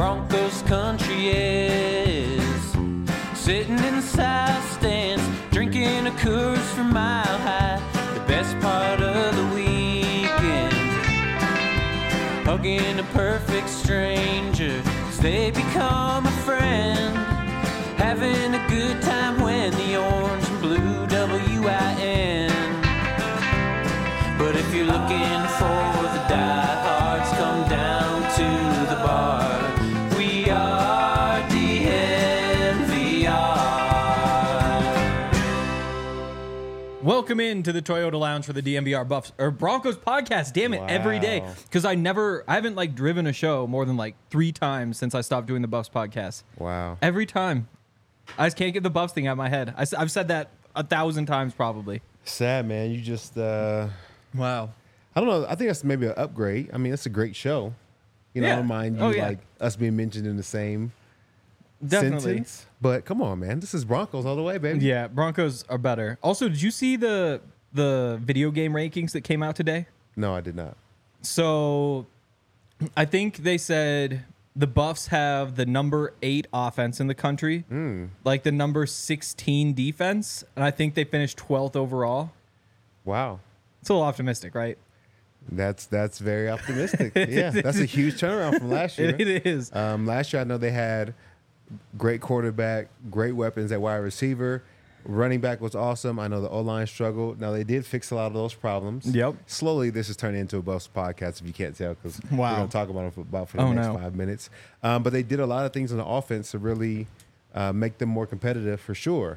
Broncos country is. Sitting in the south stands, drinking a Coors from Mile High. The best part of the weekend, hugging a perfect stranger as they become a friend. Having a good time when the orange and blue WIN. But if you're looking for the diehards, come down to the bar. We are DNVR. Welcome in to the Toyota Lounge for the DNVR Buffs or Broncos podcast. Damn it, every day. Because I haven't like driven a show more than like 3 times since I stopped doing the Buffs podcast. Wow. Every time. I just can't get the Buffs thing out of my head. I've said that 1,000 times probably. Sad, man. You just, Wow. I don't know. I think that's maybe an upgrade. I mean, it's a great show. You know, I don't mind you like us being mentioned in the same sentence. But come on, man. This is Broncos all the way, baby. Yeah, Broncos are better. Also, did you see the video game rankings that came out today? No, I did not. So I think they said the Buffs have the number 8 offense in the country, like the number 16 defense, and I think they finished 12th overall. Wow. It's a little optimistic, right? That's very optimistic. Yeah, that's a huge turnaround from last year. It is. Last year, I know they had great quarterback, great weapons at wide receiver. Running back was awesome. I know the O-line struggled. Now, they did fix a lot of those problems. Yep. Slowly, this is turning into a Buffs podcast, if you can't tell, because we're going to talk about it for the next 5 minutes. But they did a lot of things on the offense to really make them more competitive for sure.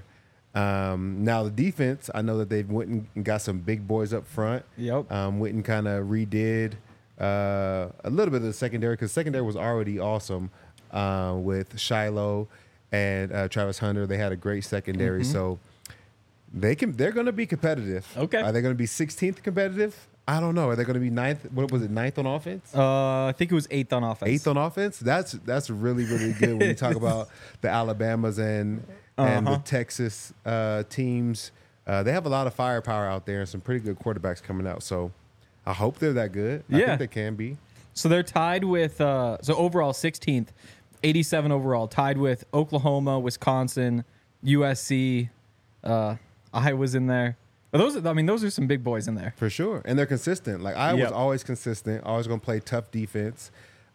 Now, the defense, I know that they've went and got some big boys up front. Yep. Went and kind of redid a little bit of the secondary, because secondary was already awesome with Shiloh and Travis Hunter. They had a great secondary, so they're going to be competitive. Okay. Are they going to be 16th competitive? I don't know. Are they going to be 9th? What was it, 9th on offense? I think it was 8th on offense. 8th on offense? That's really, really good when you talk about the Alabamas and the Texas teams. They have a lot of firepower out there and some pretty good quarterbacks coming out. So I hope they're that good. I think they can be. So they're tied with, so overall 16th, 87 overall, tied with Oklahoma, Wisconsin, USC, Iowa's in there. Those are some big boys in there. For sure. And they're consistent. Like, Iowa's always consistent, always going to play tough defense.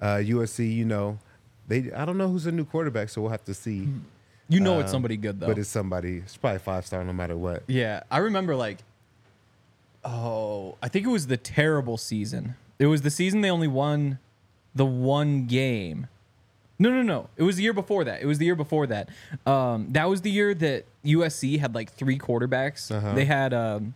USC, I don't know who's a new quarterback, so we'll have to see. It's somebody good, though. But it's probably 5-star no matter what. Yeah. I remember, I think it was the terrible season. It was the season they only won the one game. No. It was the year before that. That was the year that USC had, 3 quarterbacks. Uh-huh. They had,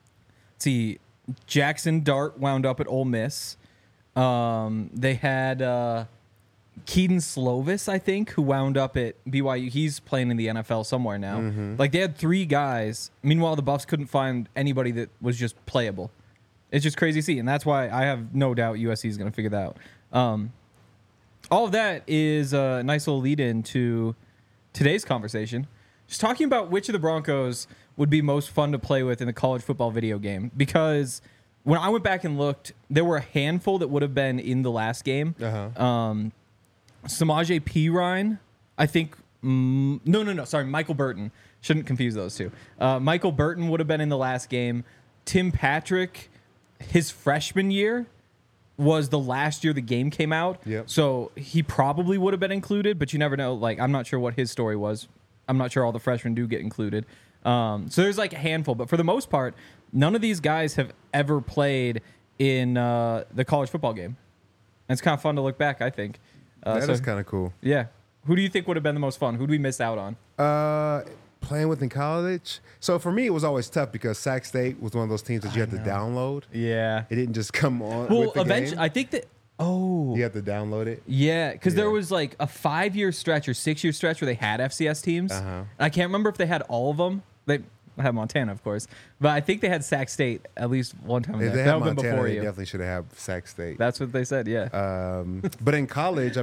Jackson Dart wound up at Ole Miss. They had Keaton Slovis, I think, who wound up at BYU. He's playing in the NFL somewhere now. Mm-hmm. They had 3 guys. Meanwhile, the Buffs couldn't find anybody that was just playable. It's just crazy to see, and that's why I have no doubt USC is going to figure that out. All of that is a nice little lead-in to today's conversation. Just talking about which of the Broncos would be most fun to play with in the college football video game. Because when I went back and looked, there were a handful that would have been in the last game. Uh-huh. Samaje Perine, I think. Sorry, Michael Burton. Shouldn't confuse those two. Michael Burton would have been in the last game. Tim Patrick, his freshman year, was the last year the game came out. Yep. So he probably would have been included, but you never know. I'm not sure what his story was. I'm not sure all the freshmen do get included. So there's a handful, but for the most part, none of these guys have ever played in the college football game. And it's kind of fun to look back, I think. That is kind of cool. Yeah. Who do you think would have been the most fun? Who do we miss out on? Playing with in college. So for me, it was always tough because Sac State was one of those teams that you had to download. Yeah. It didn't just come on. Well, with the eventually, game. I think that. Oh. You have to download it. Yeah, because there was a 5-year stretch or 6-year stretch where they had FCS teams. Uh-huh. I can't remember if they had all of them. They had Montana, of course, but I think they had Sac State at least one time. If they had Montana, they definitely should have Sac State. That's what they said. Yeah. But in college,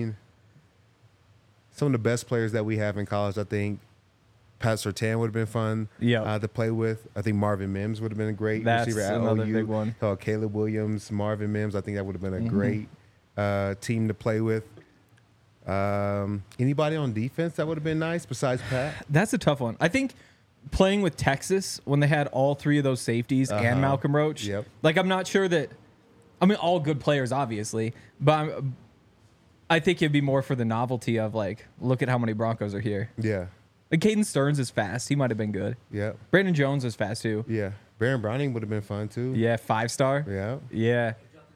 some of the best players that we have in college, I think Pat Surtain would have been fun to play with. I think Marvin Mims would have been a great receiver at another OU. Big one. Caleb Williams, Marvin Mims. I think that would have been a great team to play with. Anybody on defense that would have been nice besides Pat? That's a tough one. I think playing with Texas when they had all three of those safeties and Malcolm Roach. Yep. Like, I'm not sure that. I mean, all good players, obviously, but I think it'd be more for the novelty of, like, look at how many Broncos are here. Yeah. Like, Caden Stearns is fast. He might have been good. Yeah. Brandon Jones is fast, too. Yeah. Baron Browning would have been fun, too. Yeah, 5-star. Yeah. Yeah.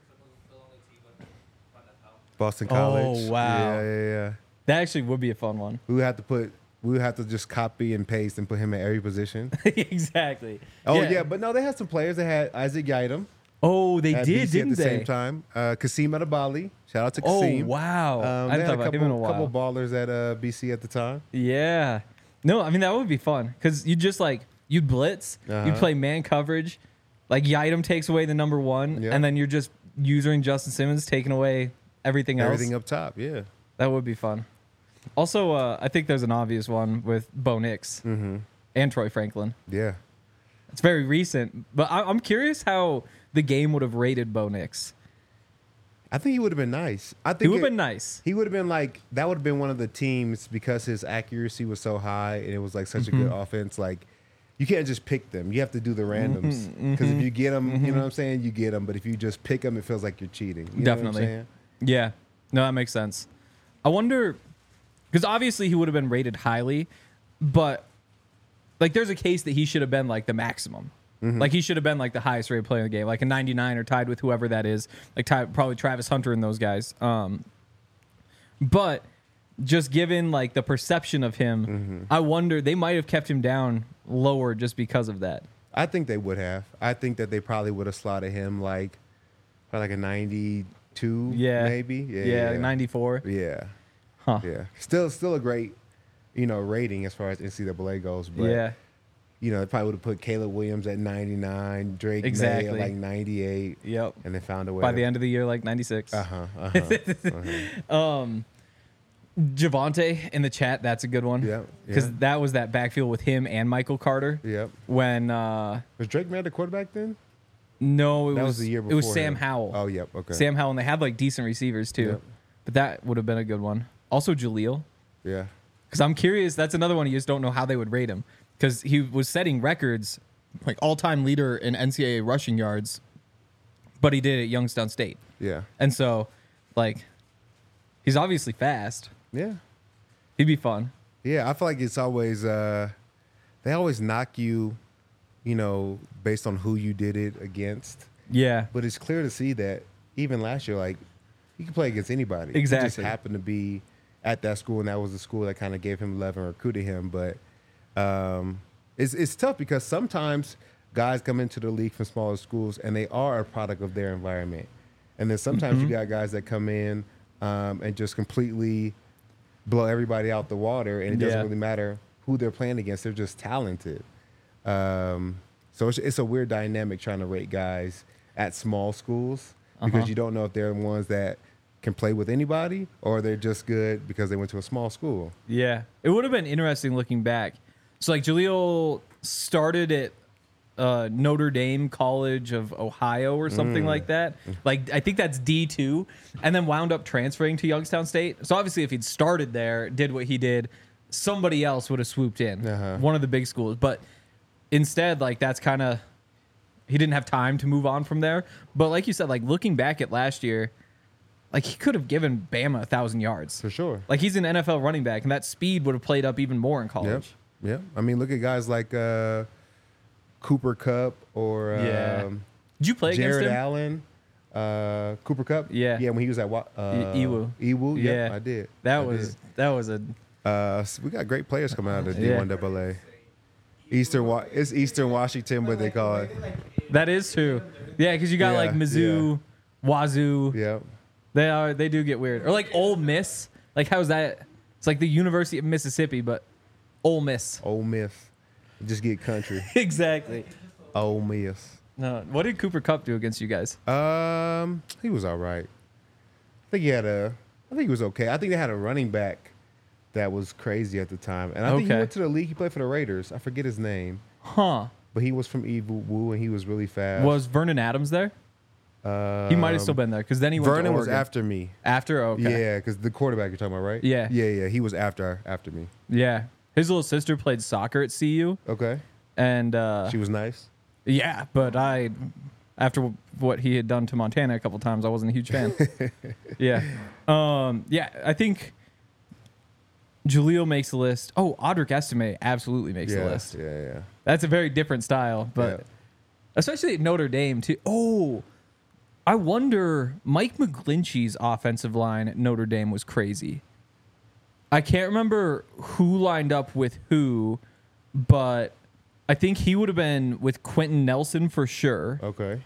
Boston College. Oh, wow. Yeah. That actually would be a fun one. We would have to just copy and paste and put him at every position. Exactly. Oh, yeah. But no, they had some players. They had Isaac Yiadom. Oh, they at did, BC didn't at the they? same time. Kasim Adebali. Shout out to Oh, Kasim. wow. I They haven't had thought about him in a while. couple ballers at BC at the time. Yeah. No, I mean, that would be fun because you just like, you'd blitz, you'd play man coverage. Like, Yiadom takes away the number one, and then you're just using Justin Simmons taking away everything else. Everything up top, yeah. That would be fun. Also, I think there's an obvious one with Bo Nix and Troy Franklin. Yeah. It's very recent, but I'm curious how the game would have rated Bo Nix. I think he would have been nice. I think He would have been nice. He would have been like, that would have been one of the teams because his accuracy was so high and it was like such a good offense. Like, you can't just pick them. You have to do the randoms. Because if you get them, you know what I'm saying? You get them. But if you just pick them, it feels like you're cheating. You know what I'm saying? Yeah. No, that makes sense. I wonder, because obviously he would have been rated highly, but like there's a case that he should have been like the maximum. Like he should have been like the highest rated player in the game, like a 99 or tied with whoever that is, like probably Travis Hunter and those guys. But just given like the perception of him, I wonder they might have kept him down lower just because of that. I think they would have. I think that they probably would have slotted him like probably like a 92, maybe. Yeah, like 94. Yeah. Huh. Yeah. Still a great, rating as far as NCAA goes. But they probably would have put Caleb Williams at 99, Drake May at like 98. Yep. And they found a way. By the end of the year, like 96. Javonte in the chat, that's a good one. Yep. Because that was that backfield with him and Michael Carter. Yep. When was Drake May the quarterback then? No, that was the year before. It was Sam Howell. Oh, yep. Okay. Sam Howell, and they had like decent receivers too. Yep. But that would have been a good one. Also Jaleel. Yeah. Because I'm curious, that's another one you just don't know how they would rate him. Because he was setting records, like all-time leader in NCAA rushing yards, but he did it at Youngstown State. Yeah. And so, like, he's obviously fast. Yeah. He'd be fun. Yeah, I feel like it's always they always knock you, based on who you did it against. Yeah. But it's clear to see that even last year, like, he could play against anybody. Exactly. He just happened to be at that school, and that was the school that kind of gave him love and recruited him. But it's tough because sometimes guys come into the league from smaller schools, and they are a product of their environment. And then sometimes you got guys that come in and just completely blow everybody out the water, and it doesn't really matter who they're playing against. They're just talented. So it's a weird dynamic trying to rate guys at small schools because you don't know if they're the ones that can play with anybody or they're just good because they went to a small school. Yeah. It would have been interesting looking back. So, like, Jaleel started at Notre Dame College of Ohio or something like that. Like, I think that's D2, and then wound up transferring to Youngstown State. So, obviously, if he'd started there, did what he did, somebody else would have swooped in, one of the big schools. But instead, like, that's kind of, he didn't have time to move on from there. But like you said, like, looking back at last year, like, he could have given Bama 1,000 yards. For sure. Like, he's an NFL running back, and that speed would have played up even more in college. Yep. I mean, look at guys like Cooper Kupp or Did you play Jared against him? Allen, Cooper Kupp. Yeah. When he was at Ewu. Ewu. Yeah, I did. That was a. We got great players coming out of the D1AA. It's Eastern Washington, but they call it. That is true. Yeah, because you got like Mizzou, Wazoo. Yeah. They do get weird. Or like Ole Miss. Like, how's that? It's like the University of Mississippi, but Ole Miss. Ole Miss. Just get country. Exactly. Ole Miss. No. What did Cooper Kupp do against you guys? He was all right. I think he was okay. I think they had a running back that was crazy at the time. And I think he went to the league. He played for the Raiders. I forget his name. Huh. But he was from Ewu, and he was really fast. Was Vernon Adams there? He might have still been there because then he went Vernon to was after me. After? Okay. Yeah, because the quarterback you're talking about, right? Yeah. Yeah. He was after me. Yeah. His little sister played soccer at CU. Okay. And she was nice. Yeah, but after what he had done to Montana a couple times, I wasn't a huge fan. Yeah. Yeah, I think Jaleel makes the list. Oh, Audric Estime absolutely makes the list. Yeah. That's a very different style, but especially at Notre Dame too. Oh, I wonder, Mike McGlinchey's offensive line at Notre Dame was crazy. I can't remember who lined up with who, but I think he would have been with Quentin Nelson for sure. Okay.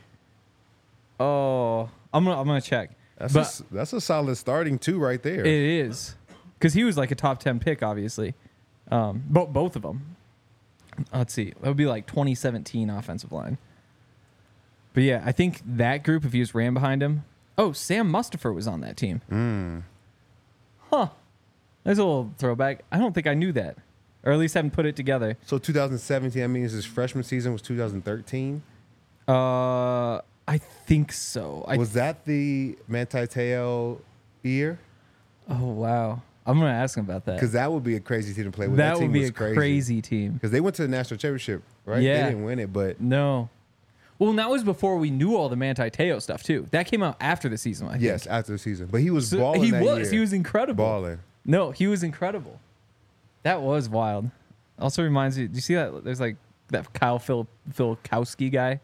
Oh, I'm gonna check. That's a solid starting two right there. It is, because he was like a top 10 pick, obviously. Both of them. Let's see, that would be like 2017 offensive line. But yeah, I think that group, if he was ran behind him. Oh, Sam Mustipher was on that team. Huh. There's a little throwback. I don't think I knew that. Or at least haven't put it together. So 2017, I mean, his freshman season was 2013? I think so. Was that the Manti Te'o year? Oh, wow. I'm going to ask him about that. Because that would be a crazy team to play with. That would be a crazy team. Because they went to the national championship, right? Yeah. They didn't win it, but... No. Well, and that was before we knew all the Manti Te'o stuff, too. That came out after the season, I think. Yes, after the season. But he was balling that year. He was incredible. Balling. No, he was incredible. That was wild. Also reminds me, do you see that? There's like that Kyle Filkowski guy.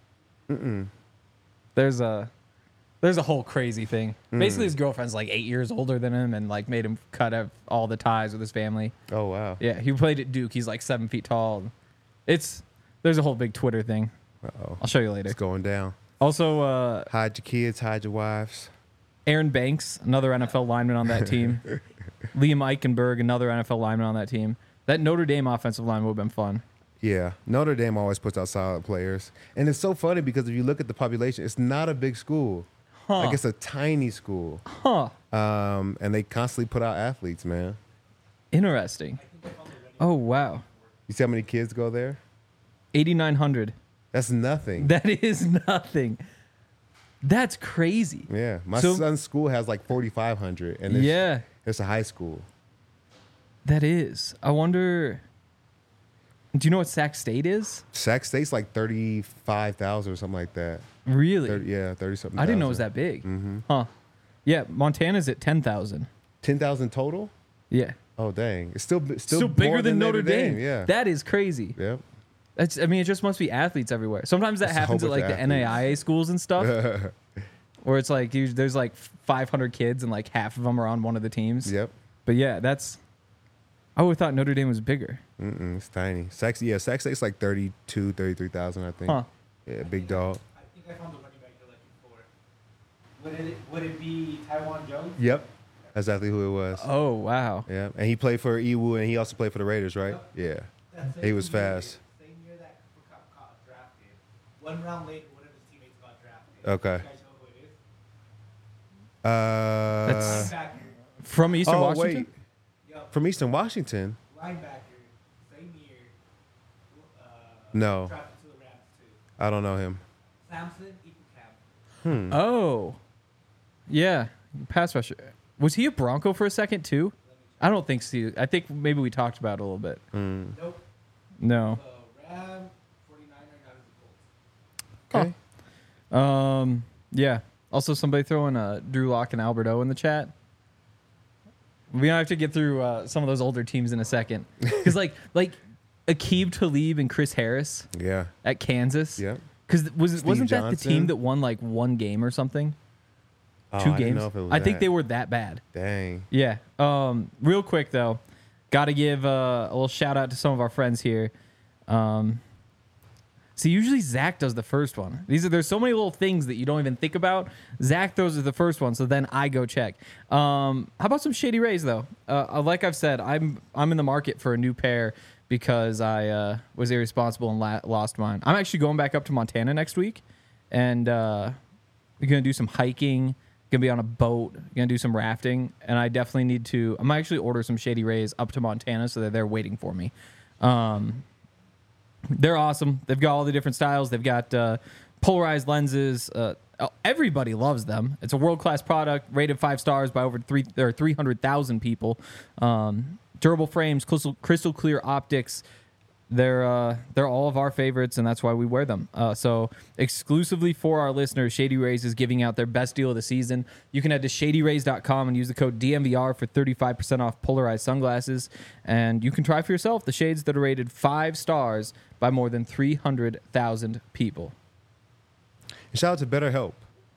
There's a whole crazy thing. Basically, his girlfriend's like 8 years older than him and like made him cut out all the ties with his family. Oh, wow. Yeah, he played at Duke. He's like 7 feet tall. There's a whole big Twitter thing. Uh-oh. I'll show you later. It's going down. Also, hide your kids, hide your wives. Aaron Banks, another NFL lineman on that team. Liam Eichenberg, another NFL lineman on that team. That Notre Dame offensive line would have been fun. Yeah, Notre Dame always puts out solid players. And it's so funny because if you look at the population, it's not a big school. Like, it's a tiny school. And they constantly put out athletes, man. Interesting. Oh, wow. You see how many kids go there? 8,900. That's nothing. That is nothing. That's crazy. Yeah. My son's school has like 4,500. And it's a high school. That is. I wonder, do you know what Sac State is? Sac State's like 35,000 or something like that. Really? 30-something. I didn't know it was that big. Huh. Yeah, Montana's at 10,000. 10,000 total? Yeah. Oh, dang. It's still bigger than Notre Dame. Yeah. That is crazy. Yep. It just must be athletes everywhere. Sometimes that happens at like the NAIA schools and stuff. Where it's like there's like 500 kids and like half of them are on one of the teams. Yep. But yeah, I would have thought Notre Dame was bigger. It's tiny. Sac State's like 33,000, I think. Huh. Yeah, big dog. I think I found the running back you're looking for. Would it be Taiwan Jones? Yep. That's exactly who it was. Oh, wow. Yeah. And he played for EWU and he also played for the Raiders, right? Yeah. He was fast. Same year that Cooper Kupp got drafted. 1 round later, one of his teammates got drafted. Okay. You guys know who it is? That's Linebacker. from Eastern Washington? Wait. From Eastern Washington? Linebacker. Same year. No. Drafted to the Rams too. I don't know him. Samson Ebukam. Oh. Yeah. Pass rusher. Was he a Bronco for a second too? I don't think so. I think maybe we talked about it a little bit. Nope. No. Ram, 49er, now he's the Colts. Okay. Yeah. Also, somebody throwing Drew Lock and Albert O in the chat. We don't have to get through some of those older teams in a second, because like Aqib Talib and Chris Harris. Yeah. At Kansas. Yeah. Because wasn't that the Johnson? team that won like one game or something? Oh, 2 I didn't games. know if it was I think that. they were that bad. Dang. Yeah. Real quick though, got to give a little shout out to some of our friends here. See, usually Zach does the first one. There's so many little things that you don't even think about. Zach throws the first one, so then I go check. How about some Shady Rays though? Like I've said, I'm in the market for a new pair because I was irresponsible and lost mine. I'm actually going back up to Montana next week, and we're gonna do some hiking. Gonna be on a boat. Gonna do some rafting, and I definitely need to. I'm actually order some Shady Rays up to Montana so that they're waiting for me. They're awesome. They've got all the different styles. They've got polarized lenses. everybody loves them. It's a world-class product, rated 5 stars by over 300,000 people. Durable frames, crystal clear optics. They're all of our favorites, and that's why we wear them. So exclusively for our listeners, Shady Rays is giving out their best deal of the season. You can head to shadyrays.com and use the code DMVR for 35% off polarized sunglasses. And you can try for yourself the shades that are rated 5 stars by more than 300,000 people. And shout out to BetterHelp.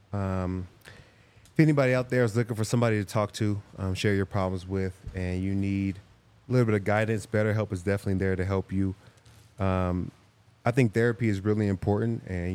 If anybody out there is looking for somebody to talk to, share your problems with, and you need a little bit of guidance, BetterHelp is definitely there to help you. I think therapy is really important, and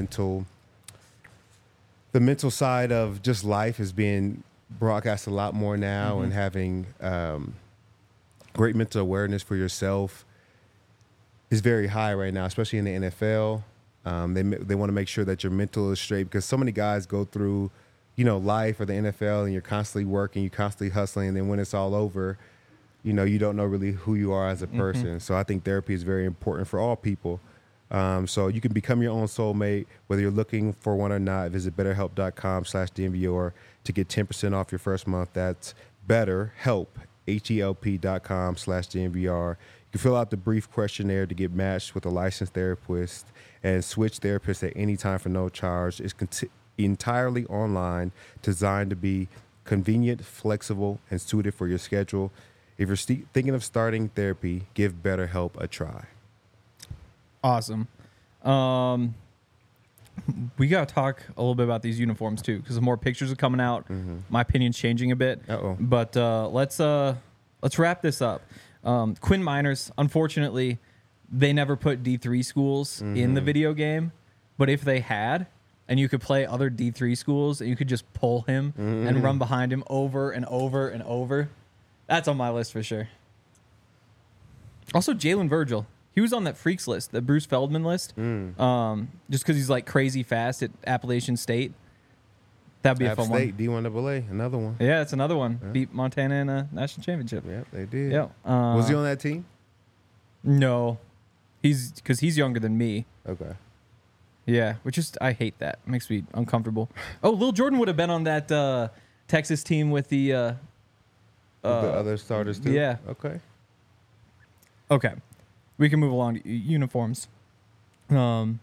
the mental side of just life is being broadcast a lot more now, and having great mental awareness for yourself is very high right now, especially in the NFL. They want to make sure that your mental is straight, because so many guys go through, life or the NFL, and you're constantly working, you're constantly hustling, and then when it's all over, you don't know really who you are as a person. So I think therapy is very important for all people. So you can become your own soulmate, whether you're looking for one or not. Visit betterhelp.com/DMVR to get 10% off your first month. That's BetterHelp, HELP.com/DMVR. You can fill out the brief questionnaire to get matched with a licensed therapist and switch therapists at any time for no charge. It's entirely online, designed to be convenient, flexible, and suited for your schedule. If you're thinking of starting therapy, give BetterHelp a try. Awesome. We got to talk a little bit about these uniforms, too, because more pictures are coming out. My opinion's changing a bit. But let's wrap this up. Quinn Miners, unfortunately, they never put D3 schools in the video game. But if they had, and you could play other D3 schools, and you could just pull him and run behind him over and over and over, that's on my list for sure. Also, Jalen Virgil. He was on that freaks list, the Bruce Feldman list, just because he's like crazy fast at Appalachian State. That'd be a fun State, one. D1AA, another one. Yeah, it's another one. Yeah. Beat Montana in a national championship. Yep, they did. Yeah. Was he on that team? No, because he's younger than me. Okay. Yeah, which is, I hate that. It makes me uncomfortable. Oh, Lil Jordan would have been on that Texas team with the other starters too. Yeah. Okay. We can move along to uniforms. I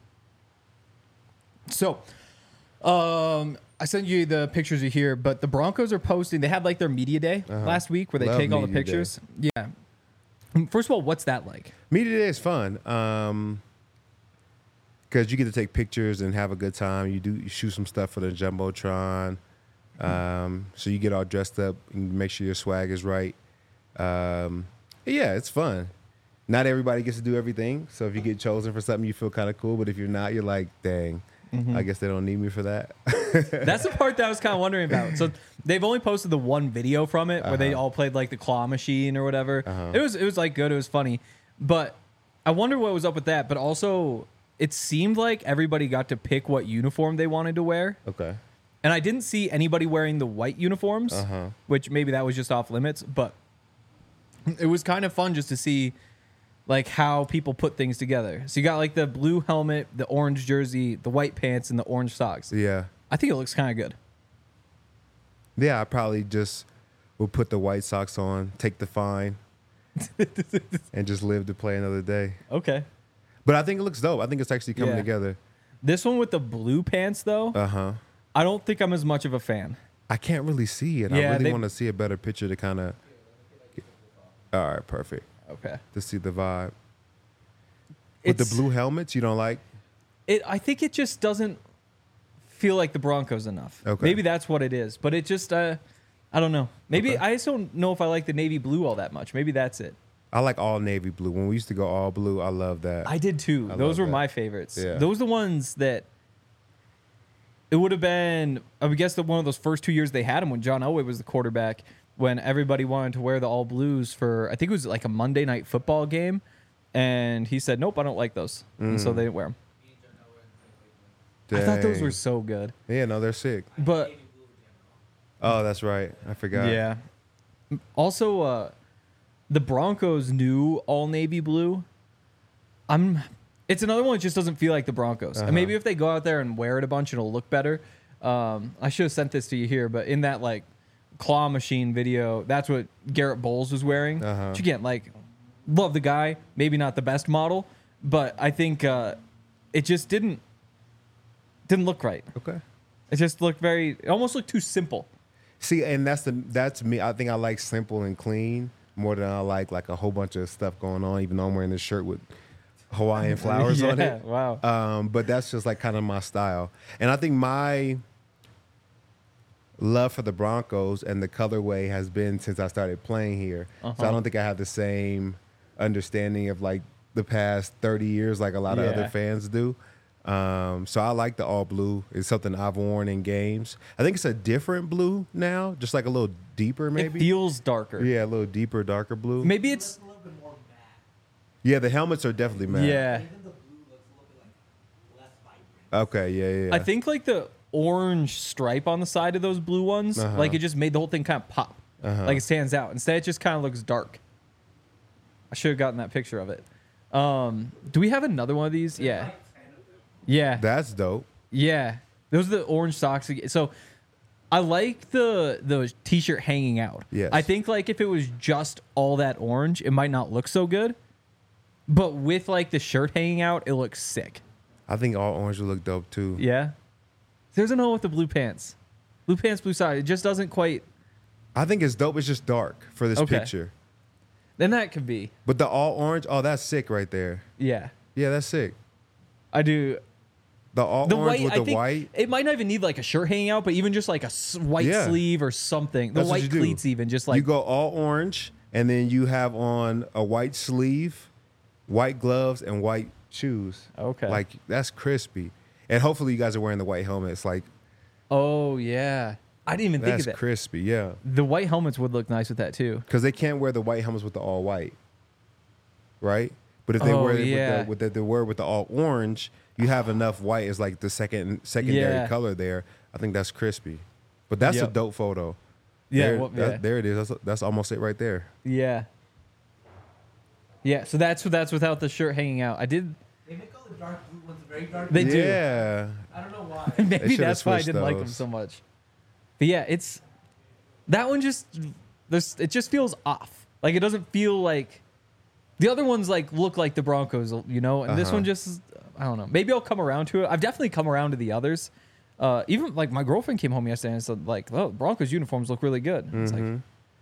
sent you the pictures of here, but the Broncos are posting. They had like their media day last week where they take all the pictures. Day. Yeah. First of all, what's that like? Media day is fun because you get to take pictures and have a good time. You shoot some stuff for the Jumbotron. So you get all dressed up and make sure your swag is right. Yeah, it's fun. Not everybody gets to do everything. So if you get chosen for something, you feel kind of cool. But if you're not, you're like, dang, I guess they don't need me for that. That's the part that I was kind of wondering about. So they've only posted the one video from it where they all played like the claw machine or whatever. It was like good. It was funny. But I wonder what was up with that. But also, it seemed like everybody got to pick what uniform they wanted to wear. Okay. And I didn't see anybody wearing the white uniforms, which maybe that was just off limits. But it was kind of fun just to see like how people put things together. So you got like the blue helmet, the orange jersey, the white pants, and the orange socks. Yeah. I think it looks kind of good. Yeah, I probably just would put the white socks on, take the fine, and just live to play another day. Okay. But I think it looks dope. I think it's actually coming together. This one with the blue pants, though, I don't think I'm as much of a fan. I can't really see it. Yeah, I really want to see a better picture to kind of... All right, perfect. Okay. To see the vibe. With the blue helmets, you don't like? I think it just doesn't feel like the Broncos enough. Okay. Maybe that's what it is. But it just, I don't know. Maybe I just don't know if I like the navy blue all that much. Maybe that's it. I like all navy blue. When we used to go all blue, I love that. I did too. Those were my favorites. Yeah. Those are the ones that it would have been, I would guess that one of those first 2 years they had him when John Elway was the quarterback, when everybody wanted to wear the all blues for, I think it was like a Monday night football game. And he said, nope, I don't like those. And so they didn't wear them. Dang. I thought those were so good. Yeah, no, they're sick. But oh, that's right. I forgot. Yeah. Also, the Broncos' new all navy blue. I'm It's another one that just doesn't feel like the Broncos. And maybe if they go out there and wear it a bunch, it'll look better. I should have sent this to you here, but in that like claw machine video, that's what Garrett Bowles was wearing. Which again, like, love the guy. Maybe not the best model, but I think it just didn't look right. Okay. It just looked it almost looked too simple. See, and that's me. I think I like simple and clean more than I like a whole bunch of stuff going on, even though I'm wearing this shirt with Hawaiian flowers on it. Wow. But that's just like kind of my style. And I think my love for the Broncos and the colorway has been since I started playing here. So I don't think I have the same understanding of like the past 30 years like a lot of other fans do. So I like the all blue. It's something I've worn in games. I think it's a different blue now, just like a little deeper maybe. It feels darker. Yeah, a little deeper, darker blue. Maybe it's a little bit more matte. Yeah, the helmets are definitely matte. Yeah. Even the blue looks a little bit like less vibrant. Okay, yeah. I think like the orange stripe on the side of those blue ones, like it just made the whole thing kind of pop. Like it stands out. Instead, it just kind of looks dark. I should have gotten that picture of it. Do we have another one of these? Yeah. Yeah. That's dope. Yeah. Those are the orange socks. So I like the t-shirt hanging out. Yes. I think like if it was just all that orange, it might not look so good. But with like the shirt hanging out, it looks sick. I think all orange would look dope too. Yeah. There's another with the blue pants. Blue pants, blue side. It just doesn't quite. I think it's dope. It's just dark for this picture. Then that could be. But the all orange, oh, that's sick right there. Yeah. Yeah, that's sick. I do. The all orange with the white. It might not even need like a shirt hanging out, but even just like a white sleeve or something. The white cleats even just like. You go all orange and then you have on a white sleeve, white gloves, and white shoes. Okay. Like that's crispy. And hopefully you guys are wearing the white helmets. Like, oh yeah. I didn't even think of that. That's crispy, yeah. The white helmets would look nice with that too. Because they can't wear the white helmets with the all white, right? But if they wear it with the all orange, you have enough white as like the secondary color there. I think that's crispy. But that's a dope photo. Yeah, there it is. That's almost it right there. Yeah. Yeah, so that's without the shirt hanging out. They make all the dark blue ones very dark. They do. Yeah. I don't know why. Maybe that's why I didn't like them so much. But yeah, it's that one it just feels off. Like it doesn't feel like the other ones like look like the Broncos, you know, and this one just I don't know. Maybe I'll come around to it. I've definitely come around to the others. Even like my girlfriend came home yesterday and said like, "Oh, Broncos uniforms look really good." It's like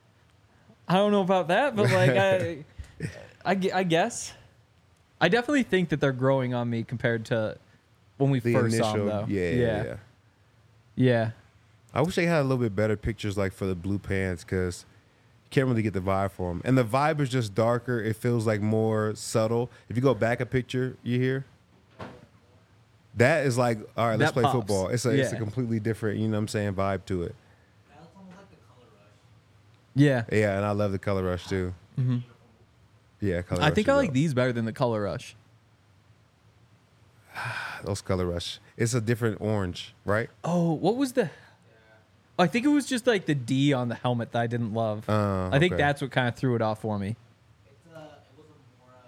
I don't know about that, but like I guess I definitely think that they're growing on me compared to when we first saw them, though. Yeah. I wish they had a little bit better pictures, like for the blue pants, because you can't really get the vibe for them. And the vibe is just darker. It feels like more subtle. If you go back a picture, you hear that is like, all right, let's play football. It's a completely different, you know what I'm saying, vibe to it. That's almost like the color rush. Yeah. Yeah, and I love the color rush too. Mm-hmm. Yeah, color rush. I think I like these better than the color rush. Those color rush. It's a different orange, right? Oh, what was the? I think it was just like the D on the helmet that I didn't love. I think that's what kind of threw it off for me. It was a more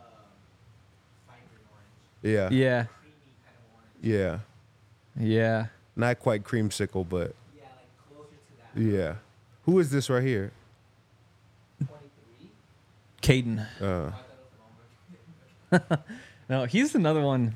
vibrant orange. Yeah. Yeah. Creamy kind of orange. Yeah. Yeah. Not quite creamsicle, but Yeah, like closer to that. yeah. Who is this right here? 23. Caden. No, he's another one.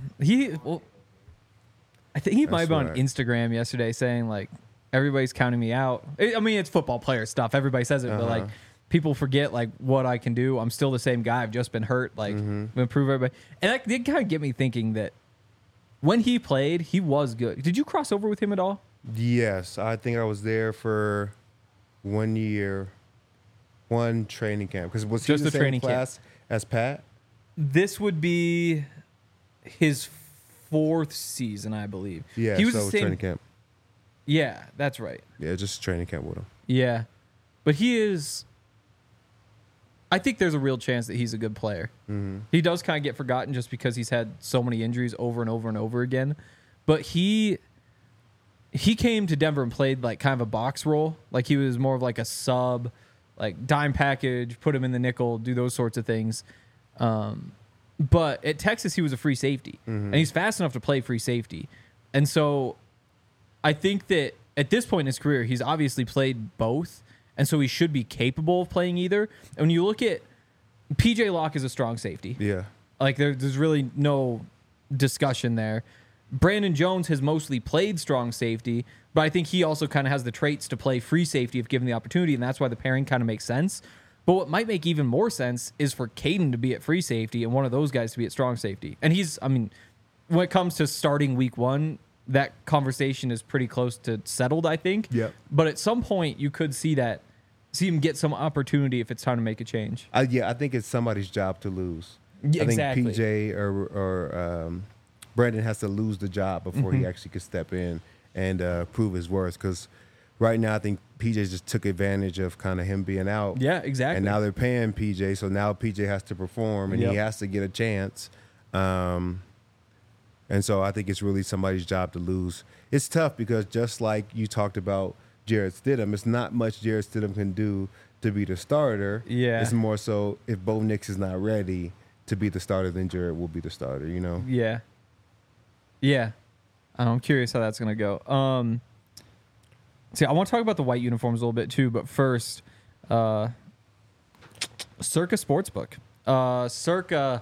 I think he might be on Instagram yesterday saying like everybody's counting me out. I mean, it's football player stuff. Everybody says it, but like people forget like what I can do. I'm still the same guy. I've just been hurt. Like improve everybody, and that did kind of get me thinking that when he played, he was good. Did you cross over with him at all? Yes, I think I was there for 1 year, one training camp. Because was he just the the same training class as Pat? This would be his 4th season, I believe. Yeah, he was so the same training camp. Yeah, that's right. Yeah, just training camp with him. Yeah, but he is. I think there's a real chance that he's a good player. Mm-hmm. He does kind of get forgotten just because he's had so many injuries over and over and over again. But he came to Denver and played like kind of a box role. Like he was more of like a sub, like dime package, put him in the nickel, do those sorts of things. But at Texas, he was a free safety, and he's fast enough to play free safety. And so I think that at this point in his career, he's obviously played both, and so he should be capable of playing either. And when you look at P.J. Locke is a strong safety. Yeah. Like, there's really no discussion there. Brandon Jones has mostly played strong safety, but I think he also kind of has the traits to play free safety if given the opportunity, and that's why the pairing kind of makes sense. But what might make even more sense is for Caden to be at free safety and one of those guys to be at strong safety. And when it comes to starting week 1, that conversation is pretty close to settled, I think. Yep. But at some point, you could see him get some opportunity if it's time to make a change. I think it's somebody's job to lose. Yeah, exactly. I think PJ or Brandon has to lose the job before he actually could step in and prove his worth. Because right now, I think PJ just took advantage of kind of him being out. Yeah, exactly. And now they're paying PJ, so now PJ has to perform and he has to get a chance. And so I think it's really somebody's job to lose. It's tough because just like you talked about Jarrett Stidham, it's not much Jarrett Stidham can do to be the starter. Yeah. It's more so if Bo Nix is not ready to be the starter, then Jarrett will be the starter, you know? Yeah. Yeah. I'm curious how that's going to go. See, I want to talk about the white uniforms a little bit too, but first, Circa Sportsbook. Circa,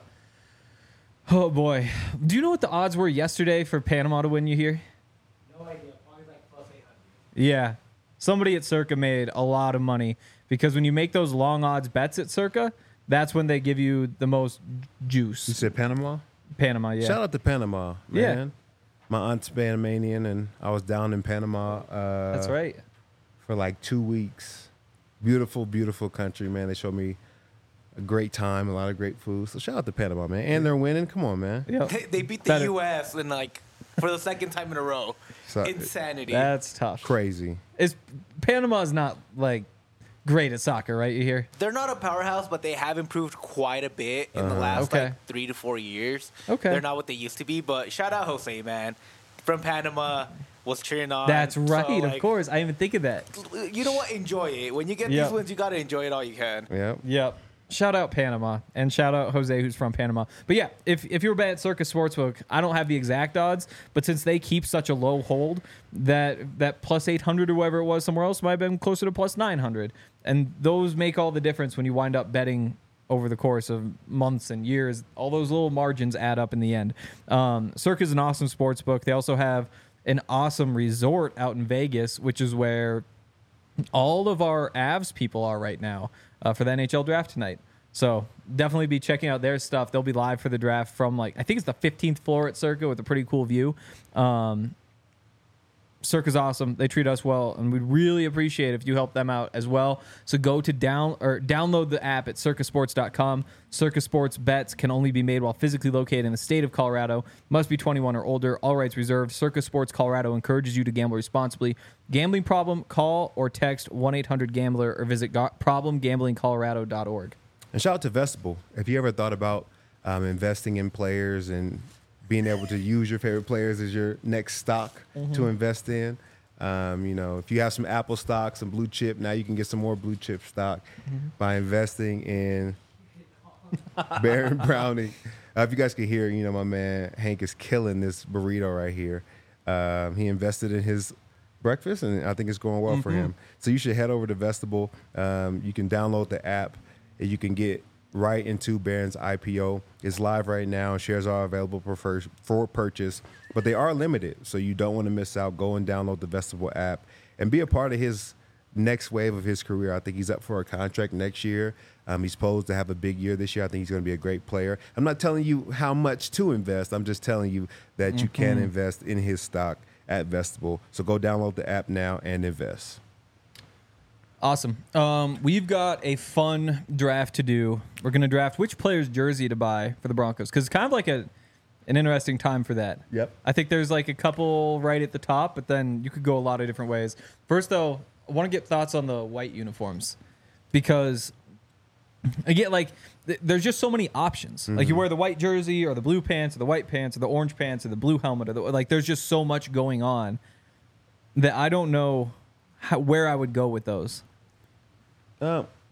oh boy. Do you know what the odds were yesterday for Panama to win, you hear? No idea. Probably like plus 800. Yeah. Somebody at Circa made a lot of money because when you make those long odds bets at Circa, that's when they give you the most juice. You said Panama? Panama, yeah. Shout out to Panama, Yeah. man. My aunt's Panamanian, and I was down in Panama. That's right. For like 2 weeks. Beautiful, beautiful country, man. They showed me a great time, a lot of great food. So shout out to Panama, man. And they're winning. Come on, man. Yep. They beat the U.S. in for the second time in a row. So, Insanity. That's tough. crazy. Panama's not great at soccer, right? You hear? They're not a powerhouse, but they have improved quite a bit in the last 3 to 4 years. Okay. They're not what they used to be, but shout out Jose, man. From Panama, was cheering on. That's right, So, of course. I didn't even think of that. You know what? Enjoy it. When you get these wins, you got to enjoy it all you can. Yep. Shout out Panama, and shout out Jose, who's from Panama. But yeah, if you're betting at Circa Sportsbook, I don't have the exact odds, but since they keep such a low hold, that plus 800 or whatever it was somewhere else might have been closer to plus 900. And those make all the difference when you wind up betting over the course of months and years. All those little margins add up in the end. Circa is an awesome sportsbook. They also have an awesome resort out in Vegas, which is where all of our Avs people are right now for the NHL draft tonight. So definitely be checking out their stuff. They'll be live for the draft from I think it's the 15th floor at Circa with a pretty cool view. Circa's awesome. They treat us well, and we'd really appreciate it if you help them out as well. So go to download the app at circasports.com. Circa Sports bets can only be made while physically located in the state of Colorado. Must be 21 or older. All rights reserved. Circa Sports Colorado encourages you to gamble responsibly. Gambling problem? Call or text 1-800-GAMBLER or visit problemgamblingcolorado.org. And shout out to Vestibule. If you ever thought about investing in players and being able to use your favorite players as your next stock to invest in. If you have some Apple stock, some blue chip, now you can get some more blue chip stock by investing in Baron Browning. If you guys can hear, my man Hank is killing this burrito right here. He invested in his breakfast, and I think it's going well for him. So you should head over to Vestibule. You can download the app, and you can get right into Baron's IPO. It's live right now. Shares are available for purchase, but they are limited, so you don't want to miss out. Go and download the Vestibule app and be a part of his next wave of his career. I think he's up for a contract next year. He's posed to have a big year this year. I think he's going to be a great player. I'm not telling you how much to invest. I'm just telling you that you can invest in his stock at Vestibule. So go download the app now and invest. Awesome. We've got a fun draft to do. We're going to draft which player's jersey to buy for the Broncos, because it's kind of like an interesting time for that. Yep. I think there's a couple right at the top, but then you could go a lot of different ways. First, though, I want to get thoughts on the white uniforms, because again, there's just so many options. Like you wear the white jersey or the blue pants or the white pants or the orange pants or the blue helmet, or there's just so much going on that I don't know where I would go with those.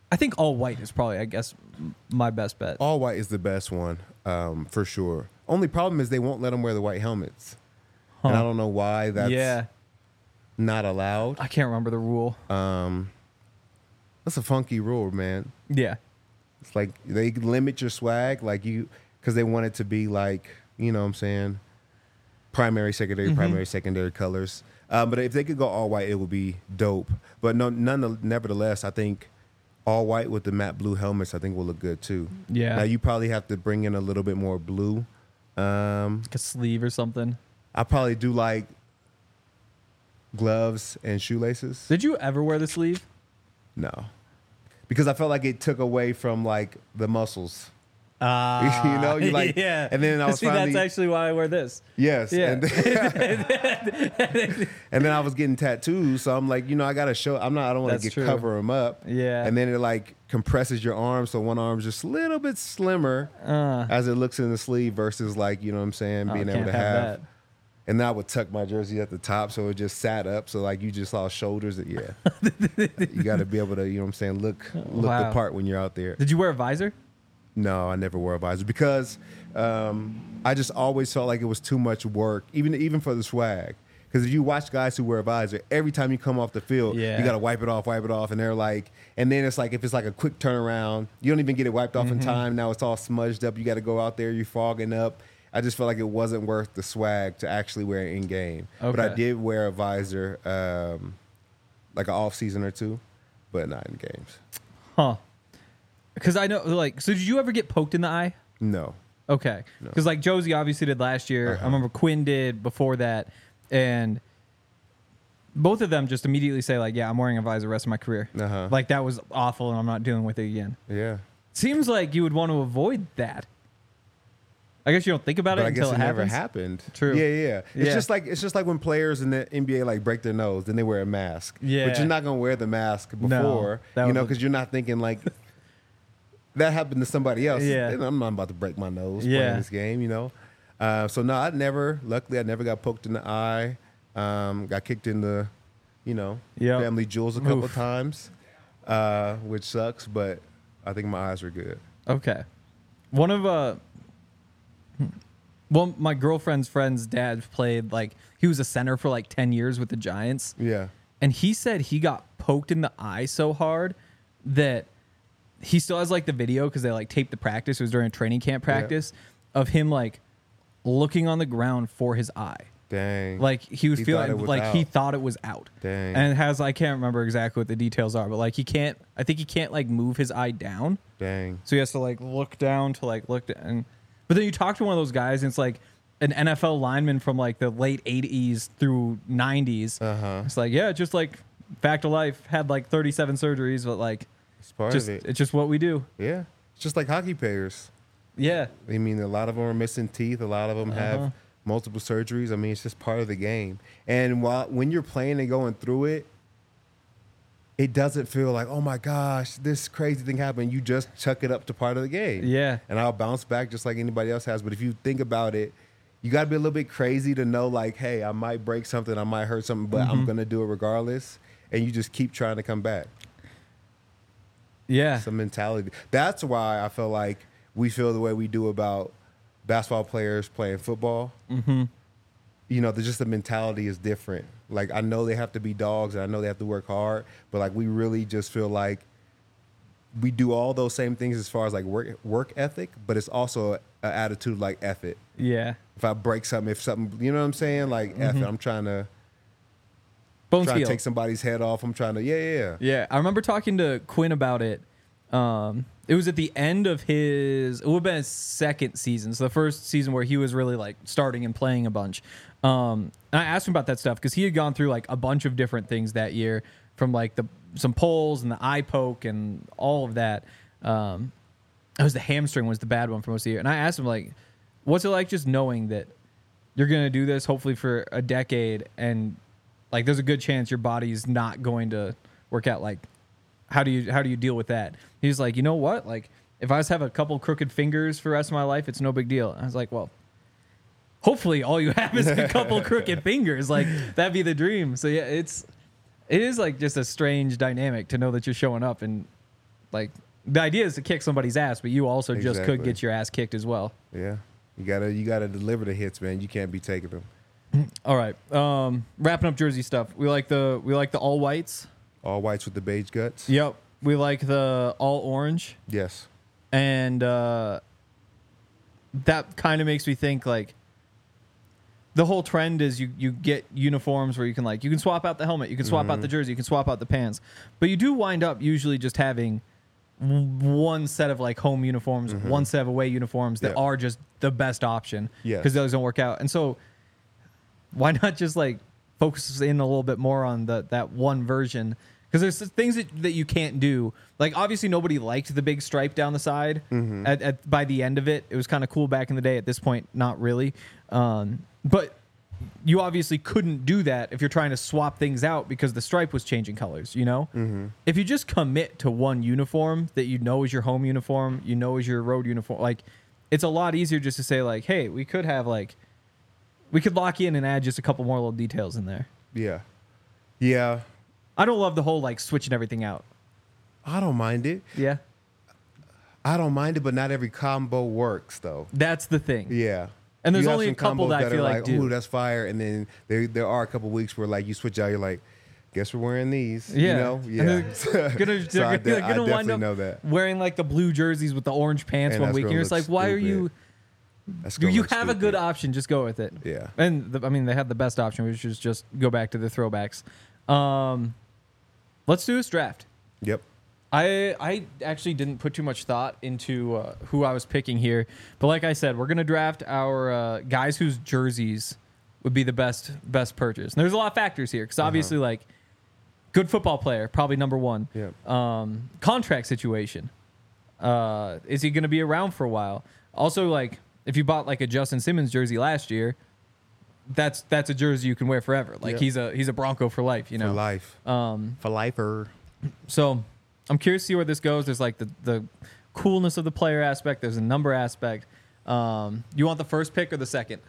I think all white is probably, I guess, my best bet. All white is the best one, for sure. Only problem is they won't let them wear the white helmets. And I don't know why that's not allowed. I can't remember the rule. That's a funky rule, man. Yeah. It's like they limit your swag, like because they want it to be like, you know what I'm saying, primary, secondary colors. But if they could go all white, it would be dope. But nevertheless, I think all white with the matte blue helmets, I think will look good too. Yeah. Now you probably have to bring in a little bit more blue. Like a sleeve or something. I probably do like gloves and shoelaces. Did you ever wear the sleeve? No, because I felt like it took away from like the muscles. You know, you like, yeah. And then I was that's actually why I wear this. Yes. Yeah. And then I was getting tattoos, so I'm like, you know, I gotta show. I don't want to cover them up. Yeah. And then it like compresses your arm, so one arm's just a little bit slimmer as it looks in the sleeve versus like, you know what I'm saying, being able to have. That. And then I would tuck my jersey at the top, so it just sat up. So like you just saw shoulders. Yeah. You got to be able to, you know what I'm saying, look the part when you're out there. Did you wear a visor? No, I never wore a visor because I just always felt like it was too much work, even for the swag. Because if you watch guys who wear a visor, every time you come off the field, you got to wipe it off, and they're like, and then it's like if it's like a quick turnaround, you don't even get it wiped off in time. Now it's all smudged up. You got to go out there, you're fogging up. I just felt like it wasn't worth the swag to actually wear it in game. Okay. But I did wear a visor, like an off season or two, but not in games. Huh. Because I know, like, so did you ever get poked in the eye? No. Okay. Because, like, Josie obviously did last year. I remember Quinn did before that. And both of them just immediately say, like, yeah, I'm wearing a visor the rest of my career. Like, that was awful, and I'm not dealing with it again. Yeah. Seems like you would want to avoid that. I guess you don't think about it until it happens. Never happened. True. Yeah. It's just like when players in the NBA like break their nose, then they wear a mask. Yeah. But you're not gonna wear the mask before, you know, because you're not thinking like that happened to somebody else. Yeah. I'm not about to break my nose playing this game, you know. So no, luckily I never got poked in the eye. Got kicked in the, you know, family jewels a couple of times, which sucks. But I think my eyes are good. Okay. Well, my girlfriend's friend's dad played, like, he was a center for like 10 years with the Giants. Yeah. And he said he got poked in the eye so hard that he still has like the video because they like taped the practice. It was during a training camp practice of him like looking on the ground for his eye. Dang. Like he was feeling like he thought it was out. Dang. And it has, I can't remember exactly what the details are, but like I think he can't like move his eye down. Dang. So he has to like look down to like look down. But then you talk to one of those guys, and it's like an NFL lineman from like the late 80s through 90s. It's like, yeah, just like fact of life, had like 37 surgeries, but like it's part of it. It's just what we do. Yeah. It's just like hockey players. Yeah. I mean, a lot of them are missing teeth. A lot of them have multiple surgeries. I mean, it's just part of the game. And when you're playing and going through it, it doesn't feel like, oh my gosh, this crazy thing happened. You just chuck it up to part of the game. Yeah. And I'll bounce back just like anybody else has. But if you think about it, you got to be a little bit crazy to know, like, hey, I might break something, I might hurt something, but I'm going to do it regardless. And you just keep trying to come back. Yeah. It's a mentality. That's why I feel like we feel the way we do about basketball players playing football. You know, just the mentality is different. Like, I know they have to be dogs and I know they have to work hard, but like we really just feel like we do all those same things as far as like work ethic, but it's also an attitude like F it. Yeah. If I break something, you know what I'm saying? Like F it, I'm trying to take somebody's head off. I'm trying to, Yeah. I remember talking to Quinn about it. It was at the end of it would have been his second season. So the first season where he was really like starting and playing a bunch. And I asked him about that stuff because he had gone through like a bunch of different things that year, from like some poles and the eye poke and all of that. It was the hamstring was the bad one for most of the year. And I asked him, like, what's it like just knowing that you're going to do this hopefully for a decade and like there's a good chance your body's not going to work out? Like, how do you deal with that? He's like, you know what? Like, if I just have a couple crooked fingers for the rest of my life, it's no big deal. I was like, well, hopefully all you have is a couple crooked fingers. Like, that'd be the dream. So yeah, it is like just a strange dynamic to know that you're showing up and Like the idea is to kick somebody's ass, but you also just could get your ass kicked as well. Yeah, you gotta deliver the hits, man. You can't be taking them. All right, wrapping up jersey stuff. We like the all whites. All whites with the beige guts. Yep. We like the all orange. Yes. And that kind of makes me think like the whole trend is you get uniforms where you can swap out the helmet, you can swap out the jersey, you can swap out the pants, but you do wind up usually just having one set of like home uniforms, one set of away uniforms that are just the best option because those don't work out. And so why not just like focus in a little bit more on that one version? Because there's things that you can't do. Like, obviously, nobody liked the big stripe down the side. By the end of it, it was kind of cool back in the day. At this point, not really. But you obviously couldn't do that if you're trying to swap things out because the stripe was changing colors, you know? If you just commit to one uniform that you know is your home uniform, you know is your road uniform, like, it's a lot easier just to say, like, hey, we could lock in and add just a couple more little details in there. Yeah. Yeah. I don't love the whole like switching everything out. I don't mind it. Yeah. I don't mind it, but not every combo works though. That's the thing. Yeah. And there's only a couple that I feel like do. Ooh, that's fire. And then there are a couple weeks where like you switch out, you're like, guess we're wearing these. Yeah. You know? Yeah. They're gonna wind up know that. wearing like the blue jerseys with the orange pants one week. And you're just like, why are you? You have a good option. Just go with it. Yeah. And they had the best option, which is just go back to the throwbacks. Let's do this draft. Yep. I actually didn't put too much thought into who I was picking here, but like I said, we're gonna draft our guys whose jerseys would be the best purchase. And there's a lot of factors here because obviously, like, good football player, probably number one. Yeah. Contract situation. Is he gonna be around for a while? Also, like, if you bought like a Justin Simmons jersey last year, that's a jersey you can wear forever. Like he's a Bronco for life, you know. For life. For lifer. So I'm curious to see where this goes. There's like the coolness of the player aspect. There's a number aspect. You want the first pick or the second?